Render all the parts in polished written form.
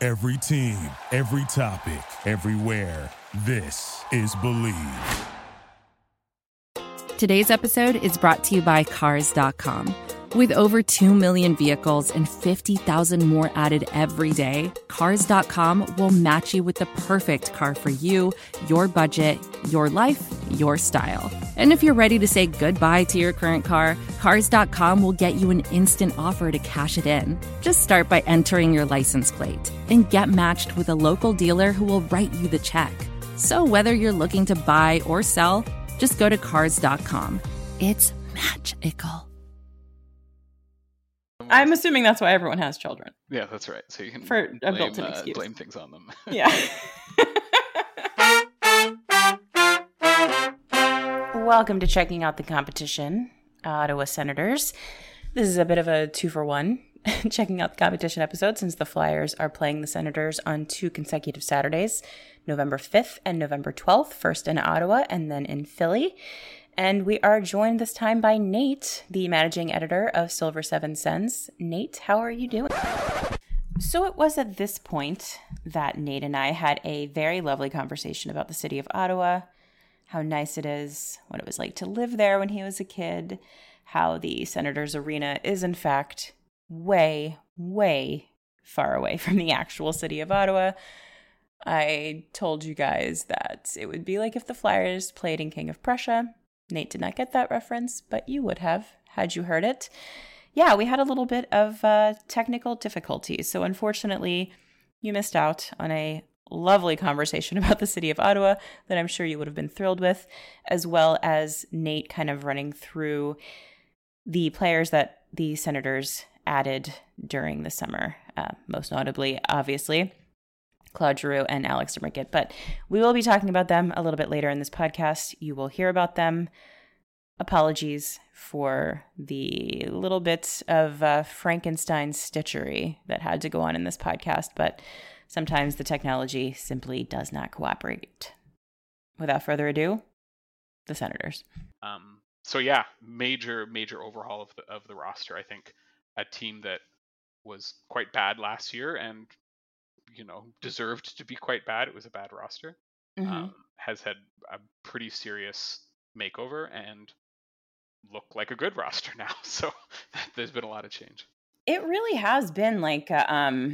Every team, every topic, everywhere. This is Believe. Today's episode is brought to you by Cars.com. With over 2 million vehicles and 50,000 more added every day, Cars.com will match you with the perfect car for you, your budget, your life, your style. And if you're ready to say goodbye to your current car, Cars.com will get you an instant offer to cash it in. Just start by entering your license plate and get matched with a local dealer who will write you the check. So whether you're looking to buy or sell, just go to Cars.com. It's magical. I'm assuming that's why everyone has children. Yeah, that's right. So you can For a built-in excuse. blame things on them. Yeah. Welcome to Checking Out the Competition, Ottawa Senators. This is a bit of a 2-for-1 checking out the competition episode since the Flyers are playing the Senators on 2 consecutive Saturdays, November 5th and November 12th, first in Ottawa and then in Philly. And we are joined this time by Nate, the managing editor of Silver Seven Sens. Nate, how are you doing? So it was at this point that Nate and I had a very lovely conversation about the city of Ottawa, how nice it is, what it was like to live there when he was a kid, how the Senators Arena is in fact way, way far away from the actual city of Ottawa. I told you guys that it would be like if the Flyers played in King of Prussia. Nate did not get that reference, but you would have had you heard it. Yeah, we had a little bit of technical difficulties. So unfortunately, you missed out on a lovely conversation about the city of Ottawa that I'm sure you would have been thrilled with, as well as Nate kind of running through the players that the Senators added during the summer, most notably, obviously, Claude Giroux and Alex DeBrincat. But we will be talking about them a little bit later in this podcast. You will hear about them. Apologies for the little bit of Frankenstein stitchery that had to go on in this podcast, but sometimes the technology simply does not cooperate. Without further ado, the Senators. So yeah, major overhaul of the roster. I think a team that was quite bad last year and deserved to be quite bad. It was a bad roster. Has had a pretty serious makeover and look like a good roster now. So there's been a lot of change. It really has been like a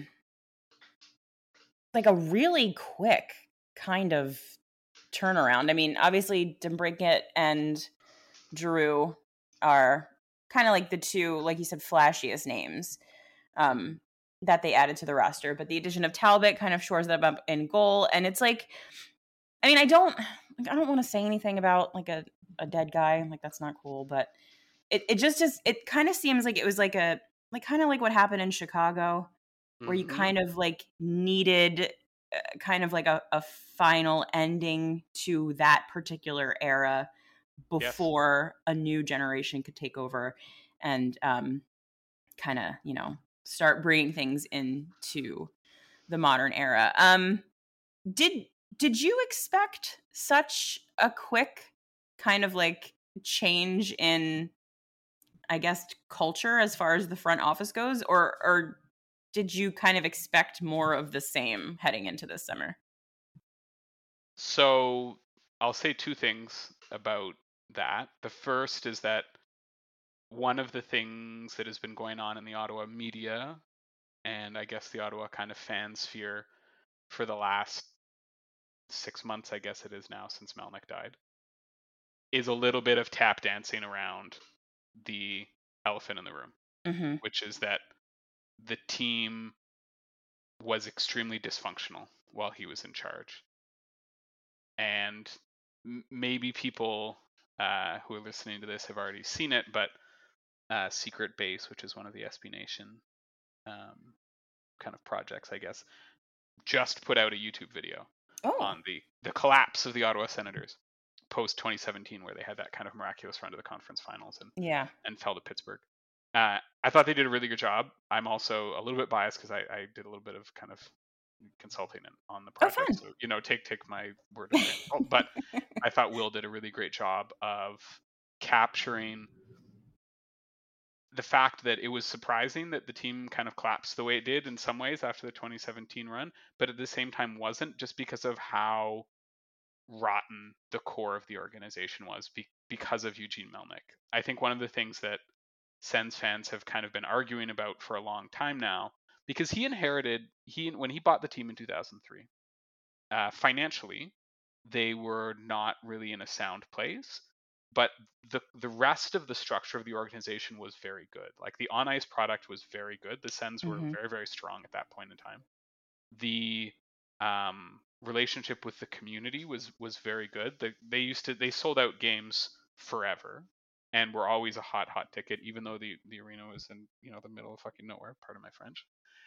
really quick kind of turnaround. I mean, obviously DeBrincat and Giroux are kind of like the two, like you said, flashiest names that they added to the roster. But the addition of Talbot kind of shores them up in goal. And it's like, I mean, I don't want to say anything about like a dead guy. Like, that's not cool. But it just it kind of seems like it was like kind of like what happened in Chicago, where you kind of like needed kind of like a final ending to that particular era before a new generation could take over and kind of, start bringing things into the modern era. Did you expect such a quick kind of like change in, I guess, culture as far as the front office goes, or did you kind of expect more of the same heading into this summer? So I'll say two things about that. The first is that one of the things that has been going on in the Ottawa media, and I guess the Ottawa kind of fan sphere for the last 6 months, I guess it is now, since Melnyk died, is a little bit of tap dancing around the elephant in the room, which is that the team was extremely dysfunctional while he was in charge. And maybe people who are listening to this have already seen it, but Secret Base, which is one of the SB Nation kind of projects, I guess, just put out a YouTube video on the collapse of the Ottawa Senators post 2017, where they had that kind of miraculous run to the conference finals and fell to Pittsburgh. I thought they did a really good job. I'm also a little bit biased because I did a little bit of kind of consulting on the project. So, take my word. But I thought Will did a really great job of capturing the fact that it was surprising that the team kind of collapsed the way it did in some ways after the 2017 run, but at the same time wasn't, just because of how rotten the core of the organization was because of Eugene Melnyk. I think one of the things that Sens fans have kind of been arguing about for a long time now, because when he bought the team in 2003, financially, they were not really in a sound place, but the rest of the structure of the organization was very good. Like the on ice product was very good. The Sens were very, very strong at that point in time. The relationship with the community was very good. They sold out games forever and were always a hot ticket, even though the arena was in the middle of fucking nowhere. Pardon my French.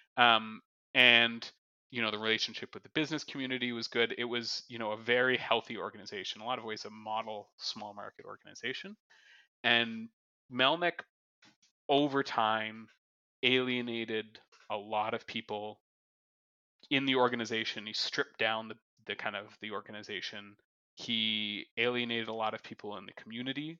And the relationship with the business community was good. It was a very healthy organization. In a lot of ways, a model small market organization. And Melnyk, over time, alienated a lot of people in the organization. He stripped down the kind of the organization. He alienated a lot of people in the community.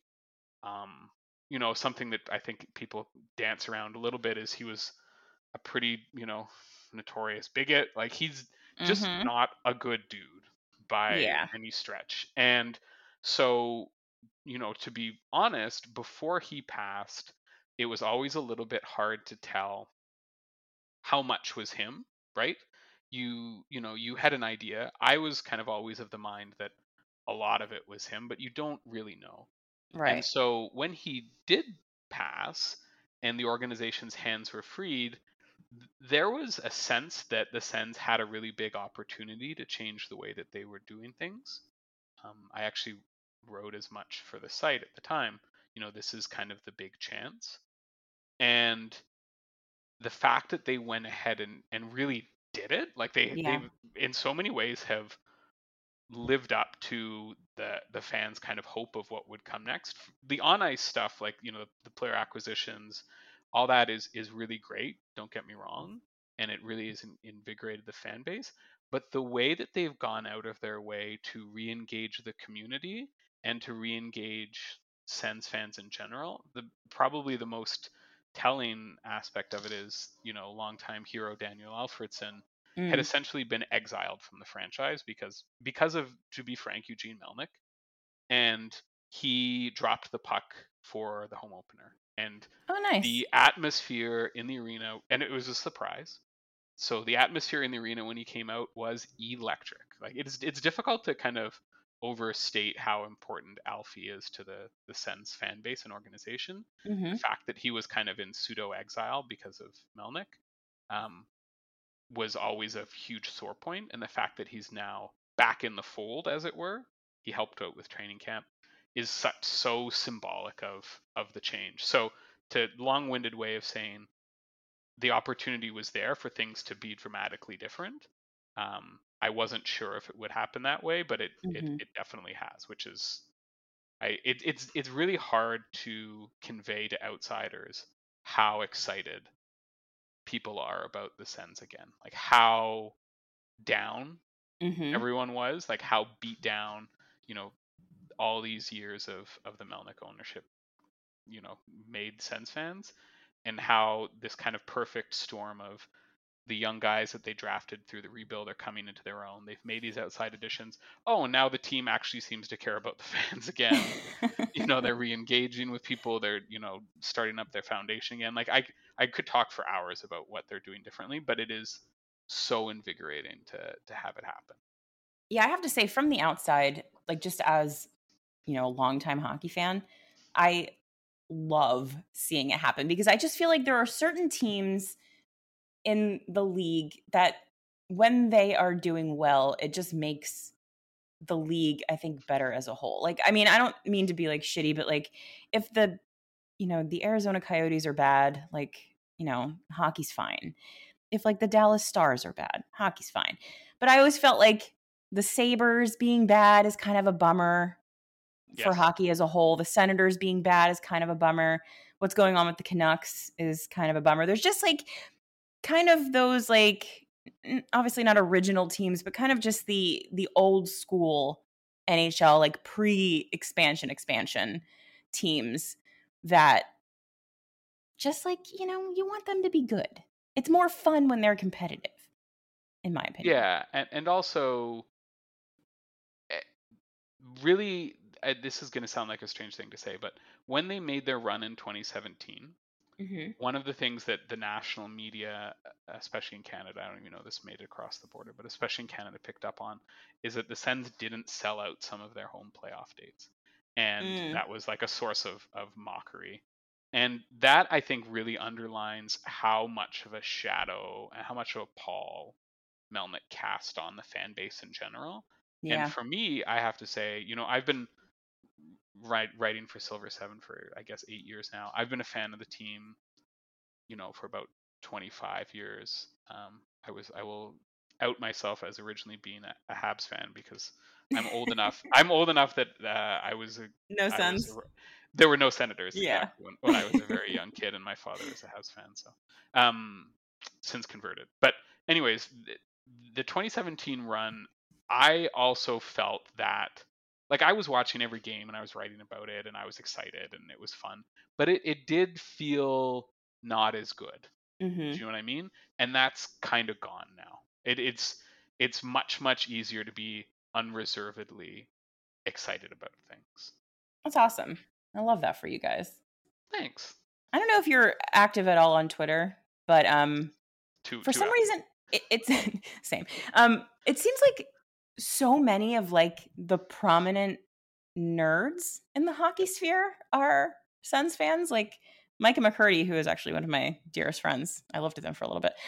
Something that I think people dance around a little bit is he was a pretty, notorious bigot. Like he's just not a good dude by any stretch. And so, to be honest, before he passed, it was always a little bit hard to tell how much was him, right? You had an idea. I was kind of always of the mind that a lot of it was him, but you don't really know. Right. And so when he did pass and the organization's hands were freed, there was a sense that the Sens had a really big opportunity to change the way that they were doing things. I actually wrote as much for the site at the time. This is kind of the big chance. And the fact that they went ahead and really did it, like they in so many ways have lived up to the fans' kind of hope of what would come next. The on ice stuff, like the player acquisitions, all that is really great. Don't get me wrong, and it really has invigorated the fan base. But the way that they've gone out of their way to re-engage the community and to re-engage Sens fans in general, probably the most telling aspect of it is longtime hero Daniel Alfredsson had essentially been exiled from the franchise because of, to be frank, Eugene Melnyk, and he dropped the puck for the home opener. And the atmosphere in the arena, and it was a surprise. So the atmosphere in the arena when he came out was electric. Like it's difficult to kind of overstate how important Alfie is to the Sens fan base and organization. The fact that he was kind of in pseudo exile because of Melnyk was always a huge sore point, and the fact that he's now back in the fold, as it were, he helped out with training camp, is so symbolic of the change. So, to long-winded way of saying, the opportunity was there for things to be dramatically different. I wasn't sure if it would happen that way, but it definitely has, which is, it's really hard to convey to outsiders how excited people are about the Sens again, like how down everyone was, like how beat down all these years of the Melnyk ownership made Sens fans, and how this kind of perfect storm of the young guys that they drafted through the rebuild are coming into their own. They've made these outside additions. Oh, and now the team actually seems to care about the fans again. They're re-engaging with people. They're, starting up their foundation again. Like I could talk for hours about what they're doing differently, but it is so invigorating to have it happen. Yeah, I have to say, from the outside, like just as, a longtime hockey fan, I love seeing it happen, because I just feel like there are certain teams in the league that when they are doing well, it just makes the league, I think, better as a whole. Like, I mean, I don't mean to be like shitty, but like if the Arizona Coyotes are bad, like, hockey's fine. If like the Dallas Stars are bad, hockey's fine. But I always felt like the Sabres being bad is kind of a bummer for hockey as a whole. The Senators being bad is kind of a bummer. What's going on with the Canucks is kind of a bummer. There's just like kind of those, like, obviously not original teams, but kind of just the old school NHL, like pre-expansion teams that just like, you want them to be good. It's more fun when they're competitive, in my opinion. Yeah, and also, really, this is going to sound like a strange thing to say, but when they made their run in 2017, one of the things that the national media, especially in Canada, I don't even know this made it across the border, but especially in Canada, picked up on, is that the Sens didn't sell out some of their home playoff dates. And that was like a source of mockery. And that, I think, really underlines how much of a shadow and how much of a pall Melnyk cast on the fan base in general. Yeah. And for me, I have to say, I've been writing for Silver 7 for, I guess, 8 years now. I've been a fan of the team, for about 25 years. I will out myself as originally being a Habs fan because I'm old enough. I'm old enough that there were no Senators. Yeah. Exactly, when I was a very young kid, and my father was a Habs fan. So, since converted. But anyways, the 2017 run, I also felt that, like, I was watching every game and I was writing about it and I was excited and it was fun, but it did feel not as good. Do you know what I mean? And that's kind of gone now. It's much easier to be unreservedly excited about things. That's awesome. I love that for you guys. Thanks. I don't know if you're active at all on Twitter, but for some reason it's same. It seems like so many of like the prominent nerds in the hockey sphere are Sens fans. Like Micah McCurdy, who is actually one of my dearest friends. I lived with him for a little bit.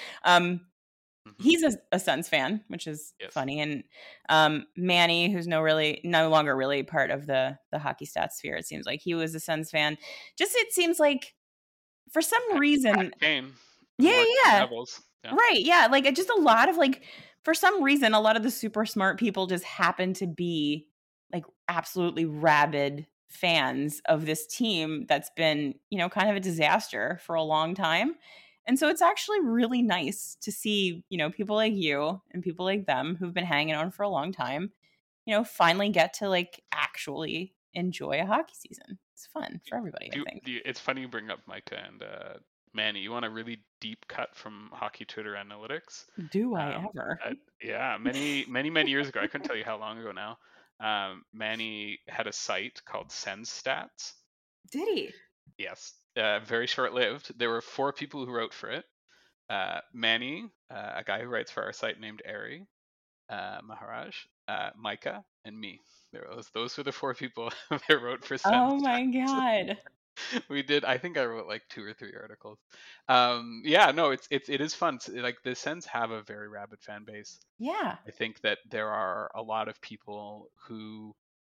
He's a Sens fan, which is funny. And Manny, who's no longer really part of the hockey stats sphere, it seems like he was a Sens fan. Just, it seems like for some reason, yeah. Right, yeah. Like just a lot of like, for some reason, a lot of the super smart people just happen to be like absolutely rabid fans of this team that's been, kind of a disaster for a long time. And so it's actually really nice to see, people like you and people like them who've been hanging on for a long time, finally get to like actually enjoy a hockey season. It's fun for everybody, I think. It's funny you bring up Micah and Manny. You want a really deep cut from hockey Twitter analytics? Do I ever? Yeah, many years ago. I couldn't tell you how long ago now. Manny had a site called Sens Stats. Did he? Yes. Very short-lived. There were 4 people who wrote for it. Manny, a guy who writes for our site named Ari, Maharaj, Micah, and me. Those were the 4 people that wrote for Sens. Oh my god. We did. I think I wrote like 2 or 3 articles. It is fun. Like the Sens have a very rabid fan base. Yeah. I think that there are a lot of people who,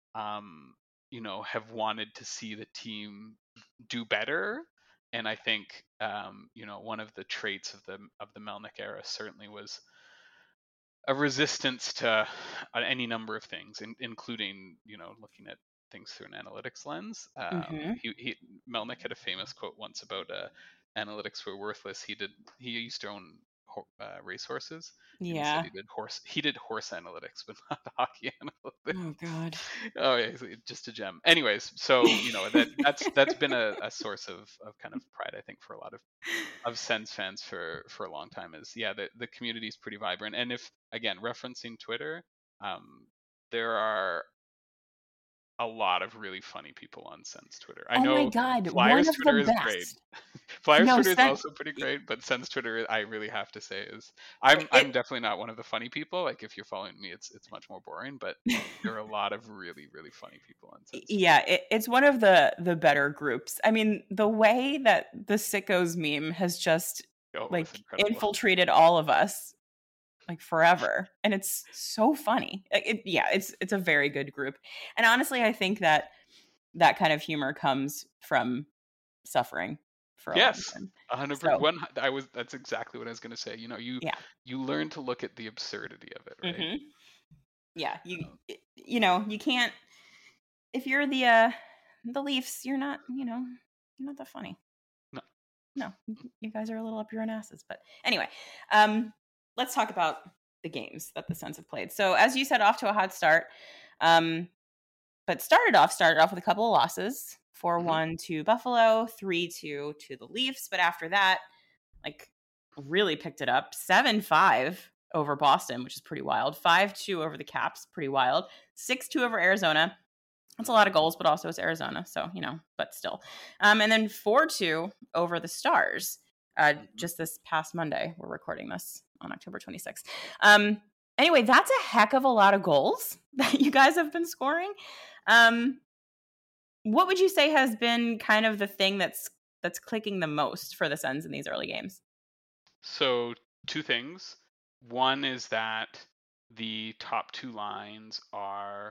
have wanted to see the team do better. And I think, one of the traits of the Melnyk era certainly was a resistance to any number of things, including, looking at things through an analytics lens. Melnyk had a famous quote once about analytics were worthless. He used to own racehorses. Yeah. He did horse analytics, but not hockey analytics. Oh god. Oh yeah, just a gem. Anyways, so that's been a source of kind of pride, I think, for a lot of Sens fans for a long time. Is the community is pretty vibrant. And if, again, referencing Twitter, there are a lot of really funny people on Sens Twitter. I know. Oh my god, Flyers Twitter is great. Flyers Twitter is Sens also pretty great, but Sens Twitter, I really have to say, is I'm definitely not one of the funny people. Like, if you're following me, it's much more boring. But there are a lot of really, really funny people on Sens. Yeah, it's one of the better groups. I mean, the way that the Sickos meme has just infiltrated all of us like forever, and it's so funny. It's a very good group. And honestly, I think that kind of humor comes from suffering for a long time. 100%. That's exactly what I was going to say. You learn to look at the absurdity of it, right? Yeah, you can't, if you're the Leafs, you're not that funny. No, you guys are a little up your own asses. But anyway, let's talk about the games that the Sens have played. So as you said, off to a hot start, but started off with a couple of losses. 4-1 to Buffalo, 3-2 to the Leafs. But after that, like, really picked it up. 7-5 over Boston, which is pretty wild. 5-2 over the Caps, pretty wild. 6-2 over Arizona. That's a lot of goals, but also it's Arizona. So, but still. And then 4-2 over the Stars. Just this past Monday. We're recording this on October 26th. Anyway, that's a heck of a lot of goals that you guys have been scoring. What would you say has been kind of the thing that's clicking the most for the Sens in these early games? So 2 things. One is that the top 2 lines are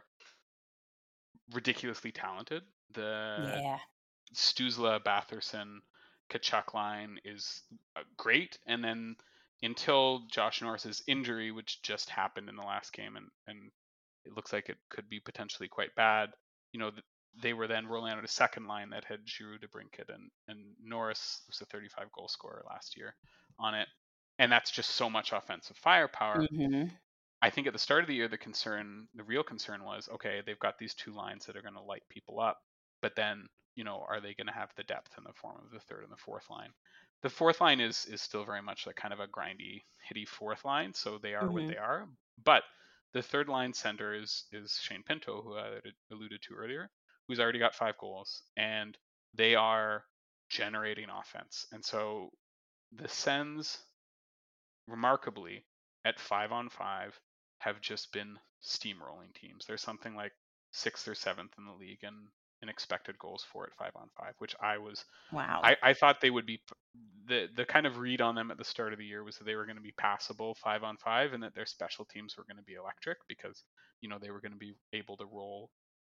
ridiculously talented. The Stützle, Batherson, Tkachuk line is great. And then until Josh Norris's injury, which just happened in the last game, and it looks like it could be potentially quite bad, they were then rolling out a second line that had Giroux, DeBrincat, and Norris was a 35-goal scorer last year on it. And that's just so much offensive firepower. Mm-hmm. I think at the start of the year, the real concern was, okay, they've got these 2 lines that are going to light people up, but then, are they going to have the depth in the form of the third and the fourth line? The fourth line is still very much like kind of a grindy, hitty fourth line, so they are what they are. But the third line center is Shane Pinto, who I alluded to earlier, who's already got 5 goals, and they are generating offense. And so the Sens, remarkably, at 5-on-5, have just been steamrolling teams. There's something like 6th or 7th in the league in expected goals for at 5-on-5, which wow. I thought they would be. The kind of read on them at the start of the year was that they were going to be passable 5-on-5, and that their special teams were going to be electric because they were going to be able to roll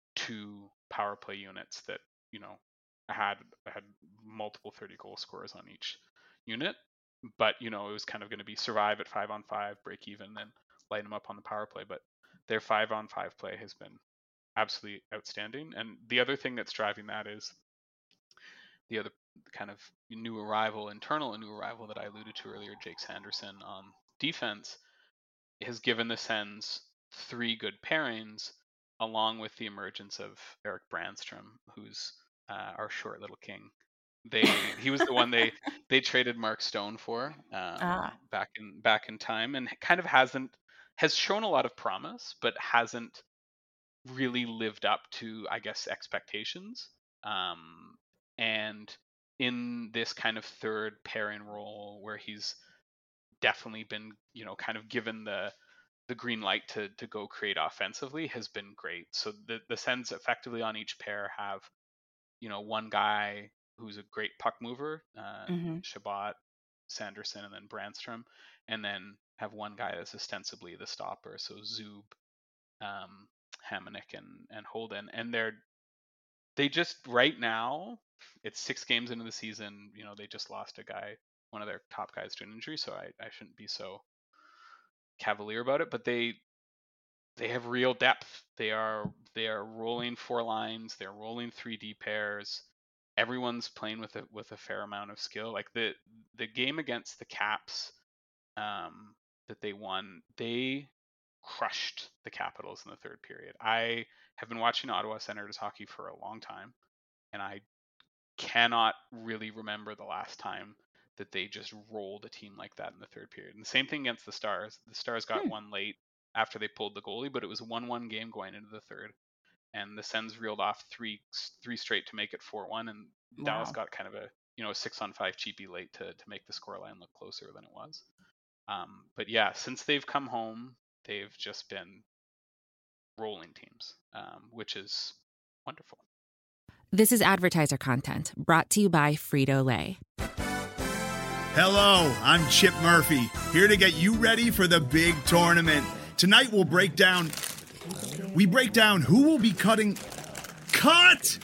2 power play units that had multiple 30-goal scorers on each unit. But it was kind of going to be survive at 5-on-5, break even, then light them up on the power play. But their 5-on-5 play has been absolutely outstanding. And the other thing that's driving that is the other kind of internal new arrival that I alluded to earlier, Jake Sanderson on defense, has given the Sens 3 good pairings, along with the emergence of Erik Brannstrom, who's our short little king. He was the one they traded Mark Stone for back in time, and kind of has shown a lot of promise, but hasn't really lived up to, I guess, expectations. And in this kind of third pairing role, where he's definitely been, kind of given the green light to go create offensively, has been great. So the Sens effectively on each pair have, one guy who's a great puck mover, Chabot, Sanderson, and then Brannstrom, and then have one guy that's ostensibly the stopper, so Zub, Hamonic, and Holden. And they just, right now, it's 6 games into the season, they just lost a guy, one of their top guys, to an injury, so I shouldn't be so cavalier about it, but they have real depth. They are rolling 4 lines, they're rolling 3D pairs. Everyone's playing with a fair amount of skill. Like the game against the Caps that they won, they crushed the Capitals in the third period. I have been watching Ottawa Senators hockey for a long time, and I cannot really remember the last time that they just rolled a team like that in the third period. And the same thing against the Stars. The Stars got one late after they pulled the goalie, but it was a 1-1 game going into the third. And the Sens reeled off three straight to make it 4-1, and Dallas got kind of a 6-on-5 cheapie late to make the scoreline look closer than it was. But yeah, since they've come home, they've just been rolling teams, which is wonderful. This is advertiser content brought to you by Frito-Lay. Hello, I'm Chip Murphy, here to get you ready for the big tournament. Tonight we'll break down who will be cutting... Cut!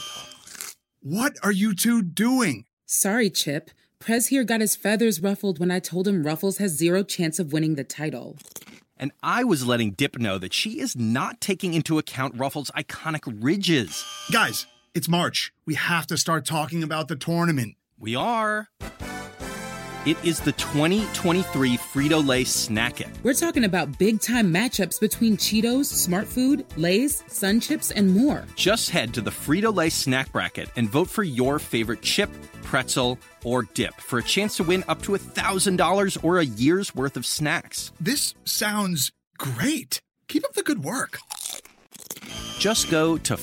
What are you two doing? Sorry, Chip. Prez here got his feathers ruffled when I told him Ruffles has 0 chance of winning the title. And I was letting Dip know that she is not taking into account Ruffles' iconic ridges. Guys, it's March. We have to start talking about the tournament. We are. It is the 2023 Frito-Lay Snack It. We're talking about big-time matchups between Cheetos, Smart Food, Lay's, Sun Chips, and more. Just head to the Frito-Lay Snack Bracket and vote for your favorite chip, pretzel, or dip for a chance to win up to $1,000 or a year's worth of snacks. This sounds great. Keep up the good work. Just go to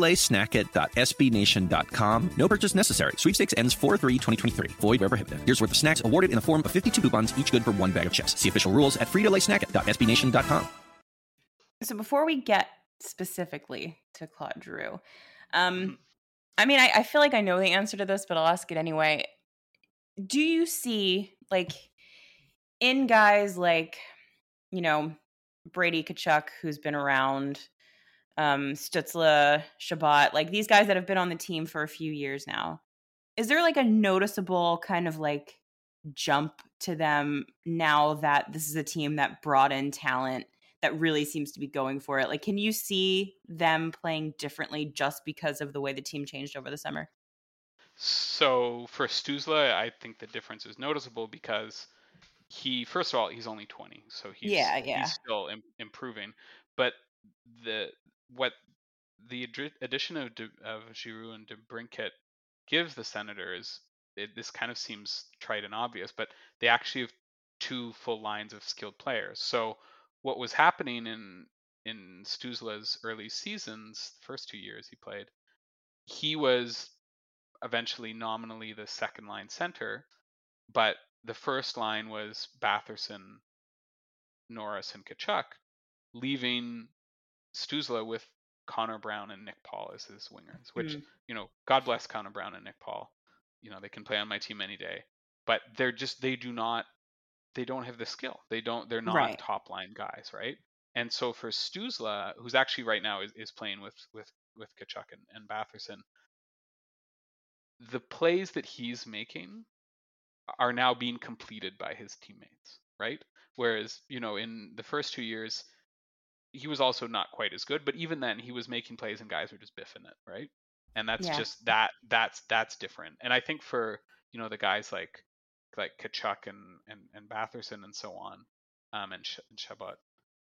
fritolaysnackit.sbnation.com. No purchase necessary. Sweepstakes ends 4/3/2023. Void where prohibited. Here's worth of snacks awarded in the form of 52 coupons, each good for one bag of chips. See official rules at fritolaysnackit.sbnation.com. So before we get specifically to Claude Giroux, I mean, I feel like I know the answer to this, but I'll ask it anyway. Do you see, like, in guys like, you know, Brady Tkachuk, who's been around, Stützle, Shabbat, like these guys that have been on the team for a few years now, is there like a noticeable kind of like jump to them now that this is a team that brought in talent that really seems to be going for it? Like, can you see them playing differently just because of the way the team changed over the summer? So for Stützle, I think the difference is noticeable because first of all, he's only 20, so he's still improving. But the addition of Giroux and DeBrincat gives the Senators, this kind of seems trite and obvious, but they actually have two full lines of skilled players. So what was happening in Stützle's early seasons, the first 2 years he played, he was eventually nominally the second line center, but the first line was Batherson, Norris, and Tkachuk, leaving Stützle with Connor Brown and Nick Paul as his wingers, which, you know, God bless Connor Brown and Nick Paul. You know, they can play on my team any day, but they don't have the skill. They're not top line guys, right? And so for Stützle, who's actually right now is playing with Tkachuk and Batherson, the plays that he's making are now being completed by his teammates, right? Whereas, you know, in the first 2 years, he was also not quite as good, but even then he was making plays and guys were just biffing it, right? And that's just that's different. And I think for, you know, the guys like Tkachuk and Batherson and so on, and Shabbat,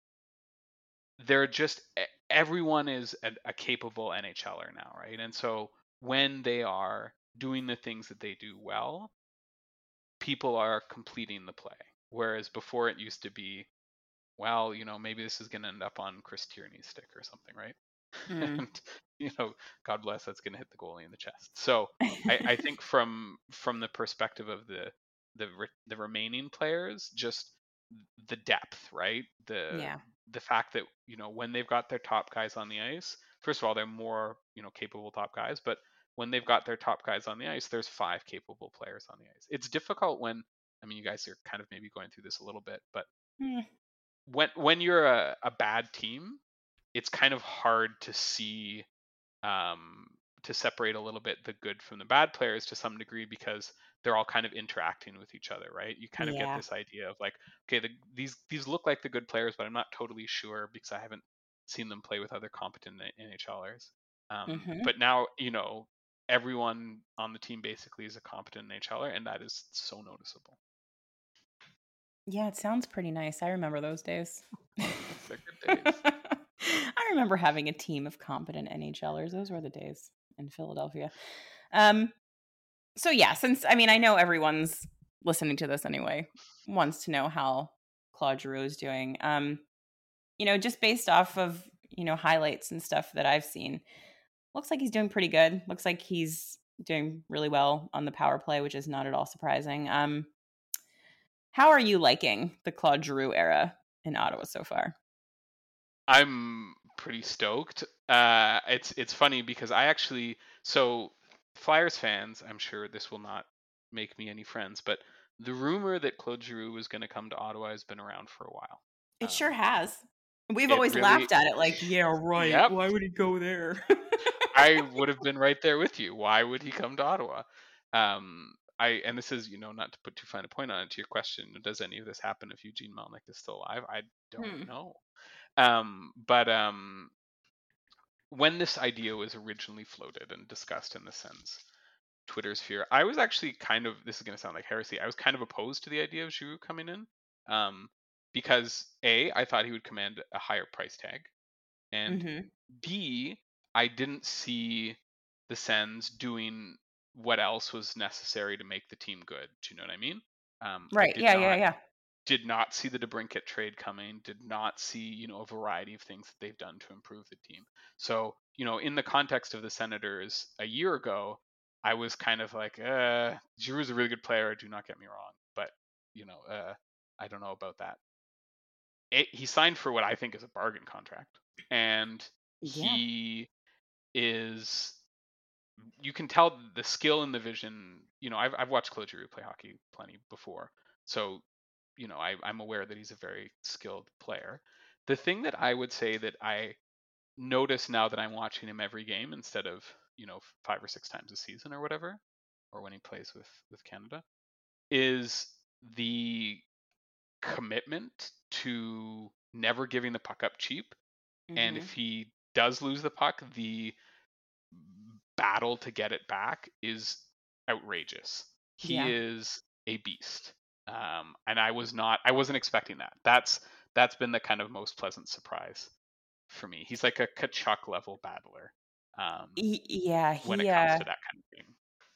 they're just, everyone is a capable NHLer now, right? And so when they are doing the things that they do well, people are completing the play. Whereas before it used to be, well, you know, maybe this is going to end up on Chris Tierney's stick or something, right? And, you know, God bless, that's going to hit the goalie in the chest. So I think from the perspective of the remaining players, just the depth, right? The fact that, you know, when they've got their top guys on the ice, first of all, they're more, you know, capable top guys, but when they've got their top guys on the ice, there's 5 capable players on the ice. It's difficult when, I mean, you guys are kind of maybe going through this a little bit, but when you're a bad team, it's kind of hard to see, to separate a little bit the good from the bad players to some degree, because they're all kind of interacting with each other, right? You kind of get this idea of like, okay, these look like the good players, but I'm not totally sure because I haven't seen them play with other competent NHLers. But now, you know, everyone on the team basically is a competent NHLer, and that is so noticeable. Yeah, it sounds pretty nice. I remember those days. They're good days. I remember having a team of competent NHLers. Those were the days in Philadelphia. So yeah, since, I mean, I know everyone's listening to this anyway, wants to know how Claude Giroux is doing. You know, just based off of, you know, highlights and stuff that I've seen, looks like he's doing pretty good. Looks like he's doing really well on the power play, which is not at all surprising. How are you liking the Claude Giroux era in Ottawa so far? I'm pretty stoked. It's funny because so Flyers fans, I'm sure this will not make me any friends, but the rumor that Claude Giroux was going to come to Ottawa has been around for a while. It sure has. We've always laughed at it like, yeah, right. Yep. Why would he go there? I would have been right there with you. Why would he come to Ottawa? And this is, you know, not to put too fine a point on it, to your question, does any of this happen if Eugene Melnyk is still alive? I don't know. But when this idea was originally floated and discussed in the Sens, Twitter sphere. I was actually this is going to sound like heresy. I was kind of opposed to the idea of Giroux coming in, because I thought he would command a higher price tag, and Mm-hmm. B, I didn't see the Sens doing what else was necessary to make the team good. Do you know what I mean? I Right. Yeah. did not see the DeBrincat trade coming, did not see, a variety of things that they've done to improve the team. So, in the context of the Senators a year ago, I was kind of like, Giroux's a really good player, do not get me wrong, but, I don't know about that. He signed for what I think is a bargain contract, and Yeah. he is, you can tell the skill and the vision. I've watched Claude Giroux play hockey plenty before, so I'm aware that he's a very skilled player. The thing that I would say that I notice now that I'm watching him every game instead of 5 or 6 times a season or whatever, or when he plays with Canada, is the commitment to never giving the puck up cheap. And Mm-hmm. if he does lose the puck, the battle to get it back is outrageous. He Yeah. is a beast. And I wasn't expecting that. That's been the kind of most pleasant surprise for me. He's like a Kachuk level battler. When it comes to that kind of thing.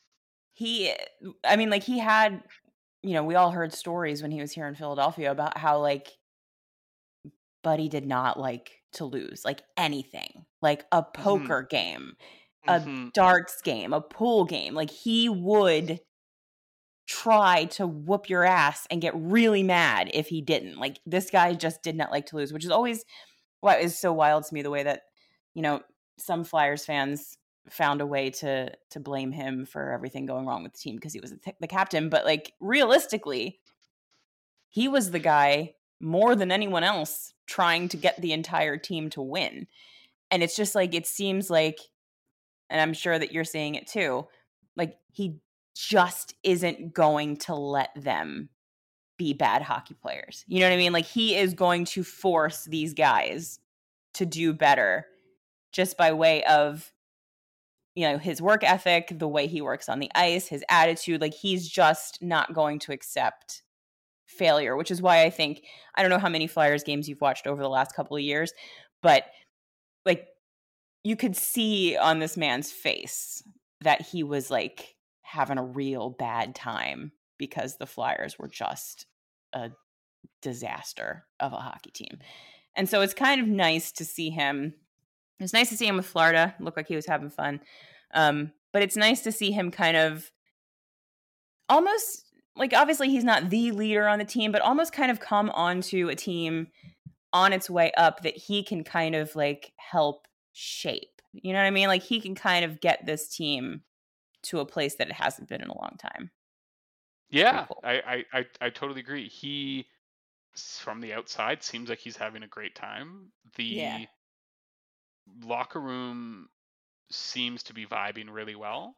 I mean, like, he had, we all heard stories when he was here in Philadelphia about how, like, Buddy did not like to lose, like, anything, like a poker game, a darts game, a pool game. Like, he would try to whoop your ass and get really mad if he didn't. Like, this guy just did not like to lose, which is always what is so wild to me, the way that, some Flyers fans found a way to blame him for everything going wrong with the team because he was the captain. But, like, realistically, he was the guy more than anyone else trying to get the entire team to win. And it's just like, it seems like, and I'm sure that you're seeing it too, like, he just isn't going to let them be bad hockey players. You know what I mean? Like, he is going to force these guys to do better just by way of, his work ethic, the way he works on the ice, his attitude. Like, he's just not going to accept failure, which is why I think, I don't know how many Flyers games you've watched over the last couple of years, but, like, you could see on this man's face that he was, like, having a real bad time because the Flyers were just a disaster of a hockey team. And so it's kind of nice to see him. It was nice to see him with Florida. It looked like he was having fun. But it's nice to see him kind of almost, like, obviously he's not the leader on the team, but almost kind of come onto a team on its way up that he can kind of, like, help shape. You know what I mean? Like, he can kind of get this team to a place that it hasn't been in a long time. Yeah, cool. I totally agree. He, from the outside, seems like he's having a great time. The locker room seems to be vibing really well.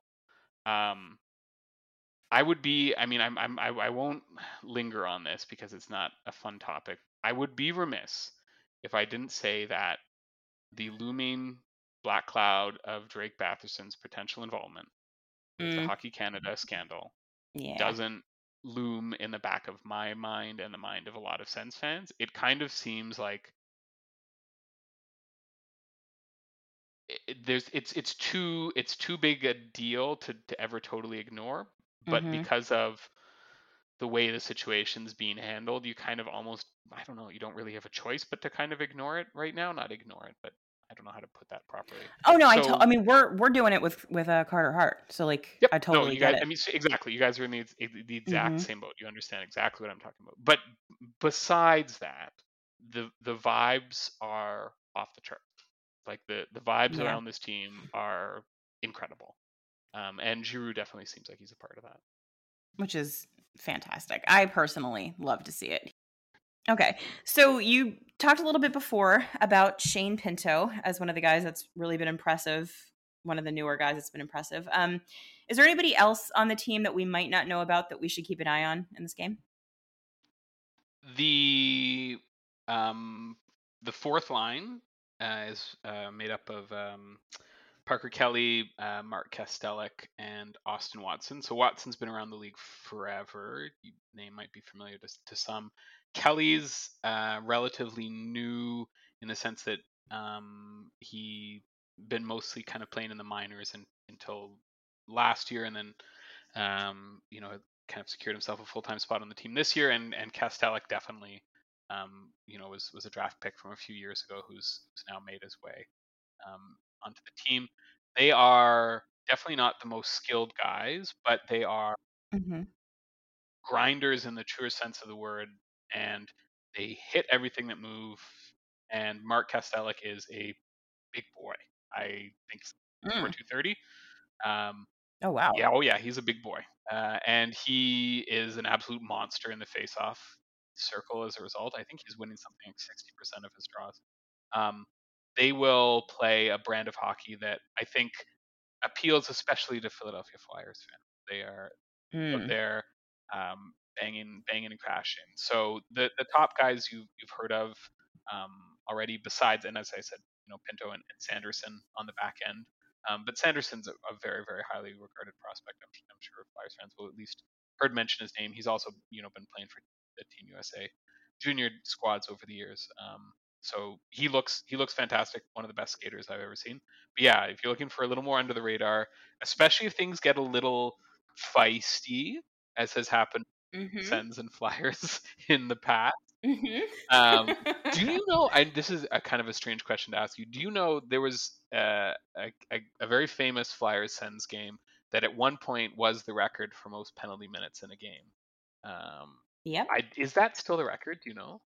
I won't linger on this because it's not a fun topic. I would be remiss if I didn't say that the looming black cloud of Drake Batherson's potential involvement with the Hockey Canada scandal doesn't loom in the back of my mind and the mind of a lot of Sens fans. It kind of seems like it's too big a deal to ever totally ignore. But because of the way the situation's being handled, you kind of almost, I don't know, you don't really have a choice but to kind of ignore it right now. Not ignore it, but I don't know how to put that properly. Oh no, I mean, we're doing it with Carter Hart, so, like, yep, I totally you guys, get it. I mean, exactly. You guys are in the exact same boat. You understand exactly what I'm talking about. But besides that, the vibes are off the chart. Like, the vibes around this team are incredible. And Giroux definitely seems like he's a part of that. Which is fantastic. I personally love to see it. Okay, so you talked a little bit before about Shane Pinto as one of the guys that's really been impressive, one of the newer guys that's been impressive. Is there anybody else on the team that we might not know about that we should keep an eye on in this game? The fourth line is made up of Parker Kelly, Mark Kastelik, and Austin Watson. So Watson's been around the league forever. Name might be familiar to some. Kelly's relatively new in the sense that he been mostly kind of playing in the minors until last year, and then kind of secured himself a full-time spot on the team this year. And Kastelik definitely was a draft pick from a few years ago who's now made his way onto the team. They are definitely not the most skilled guys, but they are Mm-hmm. grinders in the truest sense of the word, and they hit everything that move. And Mark Kastelik is a big boy. I think he's over 230. Oh, wow. Yeah, he's a big boy, and he is an absolute monster in the face-off circle. As a result, I think he's winning something like 60% of his draws. They will play a brand of hockey that I think appeals especially to Philadelphia Flyers fans. They are out there banging and crashing. So the top guys you've heard of already, besides, and as I said, Pinto and Sanderson on the back end. But Sanderson's a very, very highly regarded prospect. I'm sure Flyers fans will at least heard mention his name. He's also been playing for the Team USA junior squads over the years. So he looks fantastic. One of the best skaters I've ever seen. But yeah, if you're looking for a little more under the radar, especially if things get a little feisty, as has happened with Sens and Flyers in the past. Do you know? This is a kind of a strange question to ask you. Do you know there was a very famous Flyers Sens game that at one point was the record for most penalty minutes in a game? Yep. Is that still the record? Do you know?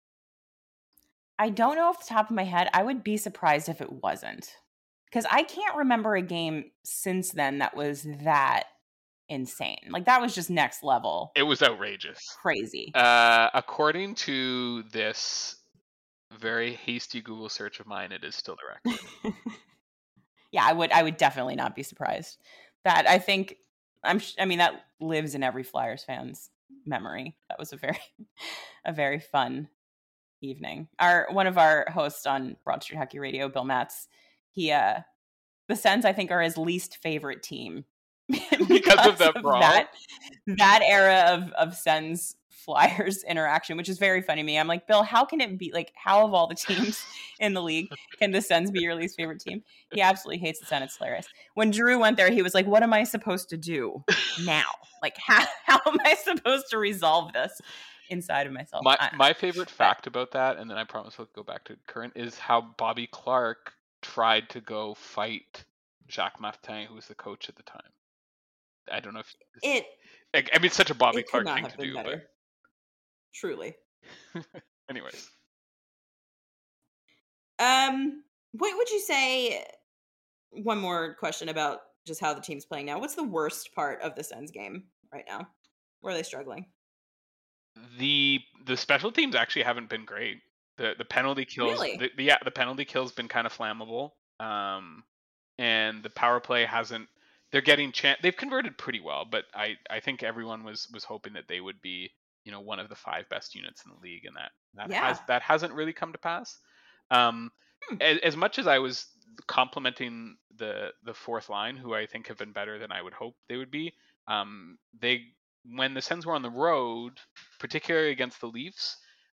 I don't know off the top of my head. I would be surprised if it wasn't, because I can't remember a game since then that was that insane. Like, that was just next level. It was outrageous. Crazy. According to this very hasty Google search of mine, it is still the record. Yeah, I would definitely not be surprised. That, I think, I mean, that lives in every Flyers fan's memory. That was a very fun evening. One of our hosts on Broad Street Hockey Radio, Bill Matz, the Sens, I think, are his least favorite team because of that brawl. That era of Sens Flyers interaction, which is very funny to me. I'm like, Bill, how can it be, like, how of all the teams in the league can the Sens be your least favorite team? He absolutely hates the Sens. It's hilarious. When Drew went there, he was like, what am I supposed to do now? Like, how am I supposed to resolve this inside of myself? My favorite fact about that, and then I promise we'll go back to current, is how Bobby Clark tried to go fight Jacques Martin, who was the coach at the time. I don't know if I mean, it's such a Bobby Clark thing to do, but truly. Anyways, what would you say? One more question about just how the team's playing now. What's the worst part of the Sens game right now? Where are they struggling? The special teams actually haven't been great. The penalty kills, really? The penalty kill's been kind of flammable. And the power play hasn't. They're getting they've converted pretty well, but I think everyone was hoping that they would be one of the 5 best units in the league, and that hasn't really come to pass. As much as I was complimenting the fourth line, who I think have been better than I would hope they would be, when the Sens were on the road, particularly against the Leafs,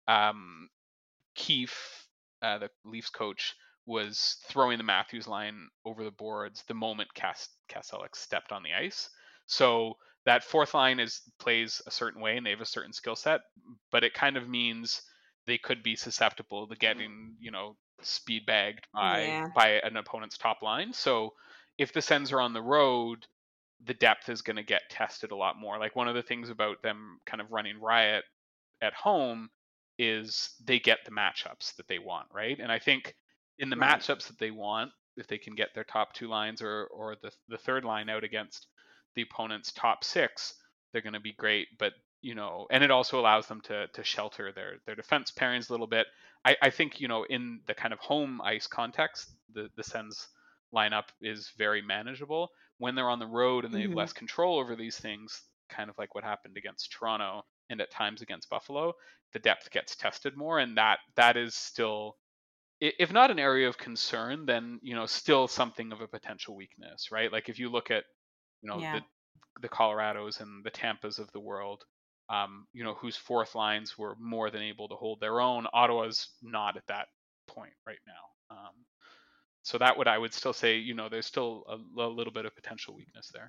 Keefe, the Leafs coach, was throwing the Matthews line over the boards the moment Kastelik stepped on the ice. So that fourth line plays a certain way, and they have a certain skill set, but it kind of means they could be susceptible to getting, speed bagged by an opponent's top line. So if the Sens are on the road, the depth is going to get tested a lot more. Like, one of the things about them kind of running riot at home is they get the matchups that they want, right? And I think in the matchups that they want, if they can get their top 2 lines or the third line out against the opponent's top 6, they're going to be great. But and it also allows them to shelter their defense pairings a little bit. I think in the kind of home ice context, the Sens lineup is very manageable. When they're on the road and they have less control over these things, kind of like what happened against Toronto and at times against Buffalo, the depth gets tested more, and that is still if not an area of concern, then still something of a potential weakness, right? Like if you look at Yeah. the Colorados and the Tampas of the world, whose fourth lines were more than able to hold their own. Ottawa's not at that point right now. So I would still say, there's still a little bit of potential weakness there.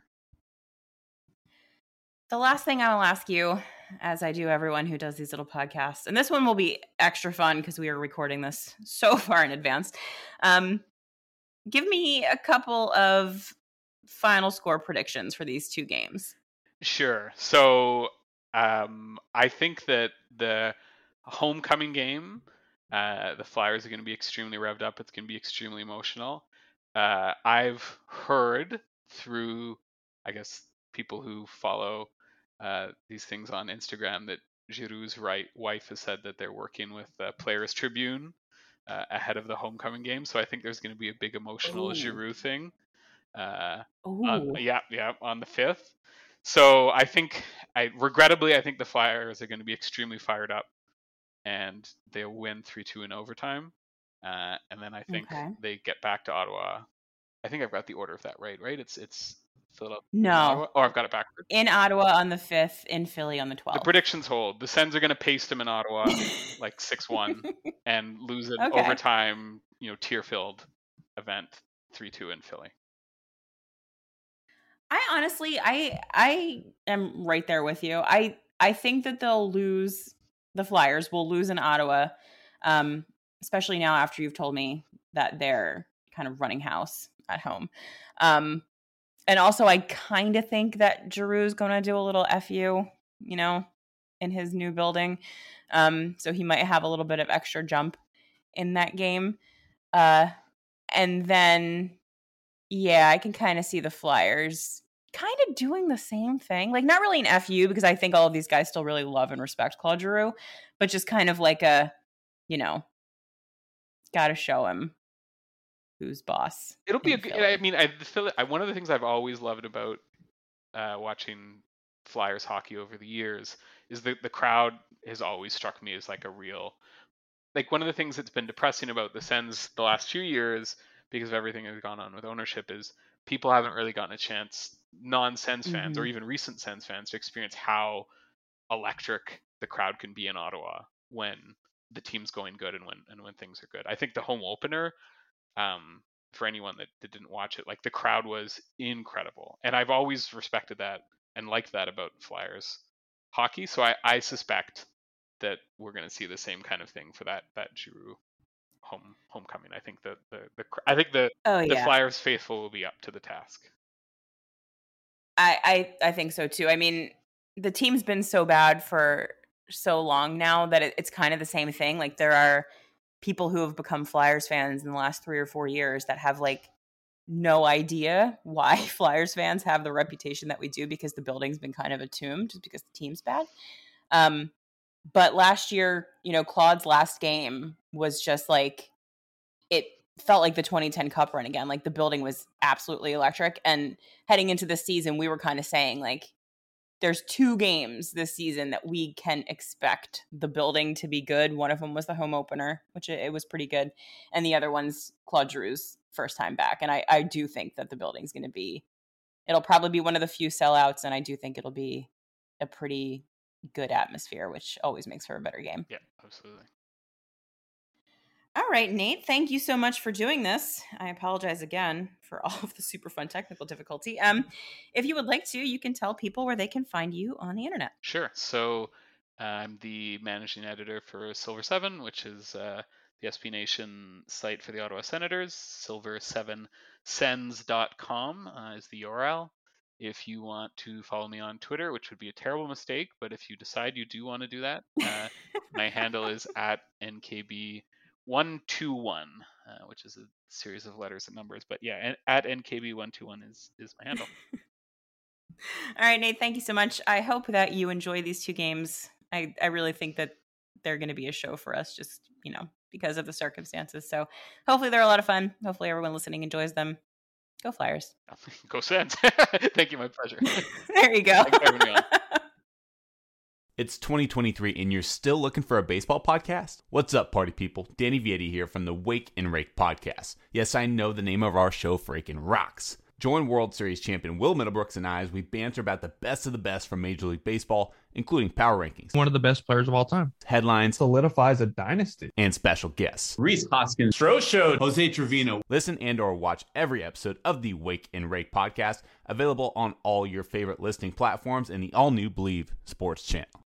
The last thing I will ask you, as I do everyone who does these little podcasts, and this one will be extra fun because we are recording this so far in advance. Give me a couple of final score predictions for these two games. Sure. So I think that the homecoming game, the Flyers are going to be extremely revved up. It's going to be extremely emotional. I've heard through, I guess, people who follow these things on Instagram that Giroux's wife has said that they're working with Players Tribune ahead of the homecoming game. So I think there's going to be a big emotional Giroux thing. On the 5th. So I think, regrettably, I think the Flyers are going to be extremely fired up, and they'll win 3-2 in overtime. And then I think they get back to Ottawa. I think I've got the order of that right? It's Philadelphia. No. Oh, I've got it backwards. In Ottawa on the 5th, in Philly on the 12th. The predictions hold. The Sens are going to paste them in Ottawa like 6-1 and lose an overtime, tear-filled event 3-2 in Philly. I honestly, I am right there with you. I think that the Flyers will lose in Ottawa, especially now after you've told me that they're kind of running house at home. And also I kind of think that Giroux is going to do a little FU, in his new building. So he might have a little bit of extra jump in that game. And then, yeah, I can kind of see the Flyers kind of doing the same thing. Like, not really an FU, because I think all of these guys still really love and respect Claude Giroux, but just kind of like a, got to show him who's boss. It'll be one of the things I've always loved about watching Flyers hockey over the years is that the crowd has always struck me as like a real, like, one of the things that's been depressing about the Sens the last few years, because of everything that's gone on with ownership, is people haven't really gotten a chance, non-Sens fans or even recent Sens fans, to experience how electric the crowd can be in Ottawa when the team's going good and when things are good. I think the home opener, for anyone that didn't watch it, like, the crowd was incredible, and I've always respected that and liked that about Flyers hockey. So I suspect that we're going to see the same kind of thing for that Giroux homecoming. I think the Flyers faithful will be up to the task. I think so too. I mean, the team's been so bad for so long now that it's kind of the same thing. Like, there are people who have become Flyers fans in the last 3 or 4 years that have like no idea why Flyers fans have the reputation that we do, because the building's been kind of entombed just because the team's bad. But last year, Claude's last game was just like, it felt like the 2010 Cup run again. Like, the building was absolutely electric. And heading into the season, we were kind of saying, like, there's 2 games this season that we can expect the building to be good. One of them was the home opener, which it was pretty good. And the other one's Claude Giroux's first time back. And I do think that the building's going to be, it'll probably be one of the few sellouts. And I do think it'll be a pretty good atmosphere, which always makes for a better game. Yeah, absolutely. All right, Nate, thank you so much for doing this. I apologize again for all of the super fun technical difficulty. If you would like to, you can tell people where they can find you on the internet. Sure. So I'm the managing editor for Silver 7, which is the SB Nation site for the Ottawa Senators. silver7sens.com is the URL. If you want to follow me on Twitter, which would be a terrible mistake, but if you decide you do want to do that, my handle is @NKB121, which is a series of letters and numbers. But yeah, @NKB121 is my handle. All right, Nate, thank you so much. I hope that you enjoy these 2 games. I really think that they're going to be a show for us, just, because of the circumstances. So hopefully they're a lot of fun. Hopefully everyone listening enjoys them. Go Flyers. Go Sens. Thank you. My pleasure. There you go. Thanks for having me on. It's 2023 and you're still looking for a baseball podcast? What's up, party people? Danny Vietti here from the Wake and Rake podcast. Yes, I know the name of our show freaking rocks. Join World Series champion Will Middlebrooks and I as we banter about the best of the best from Major League Baseball, including power rankings, one of the best players of all time, headlines, solidifies a dynasty, and special guests. Rhys Hoskins, Stroh Show, Jose Trevino. Listen and or watch every episode of the Wake and Rake podcast, available on all your favorite listening platforms and the all-new Believe Sports channel.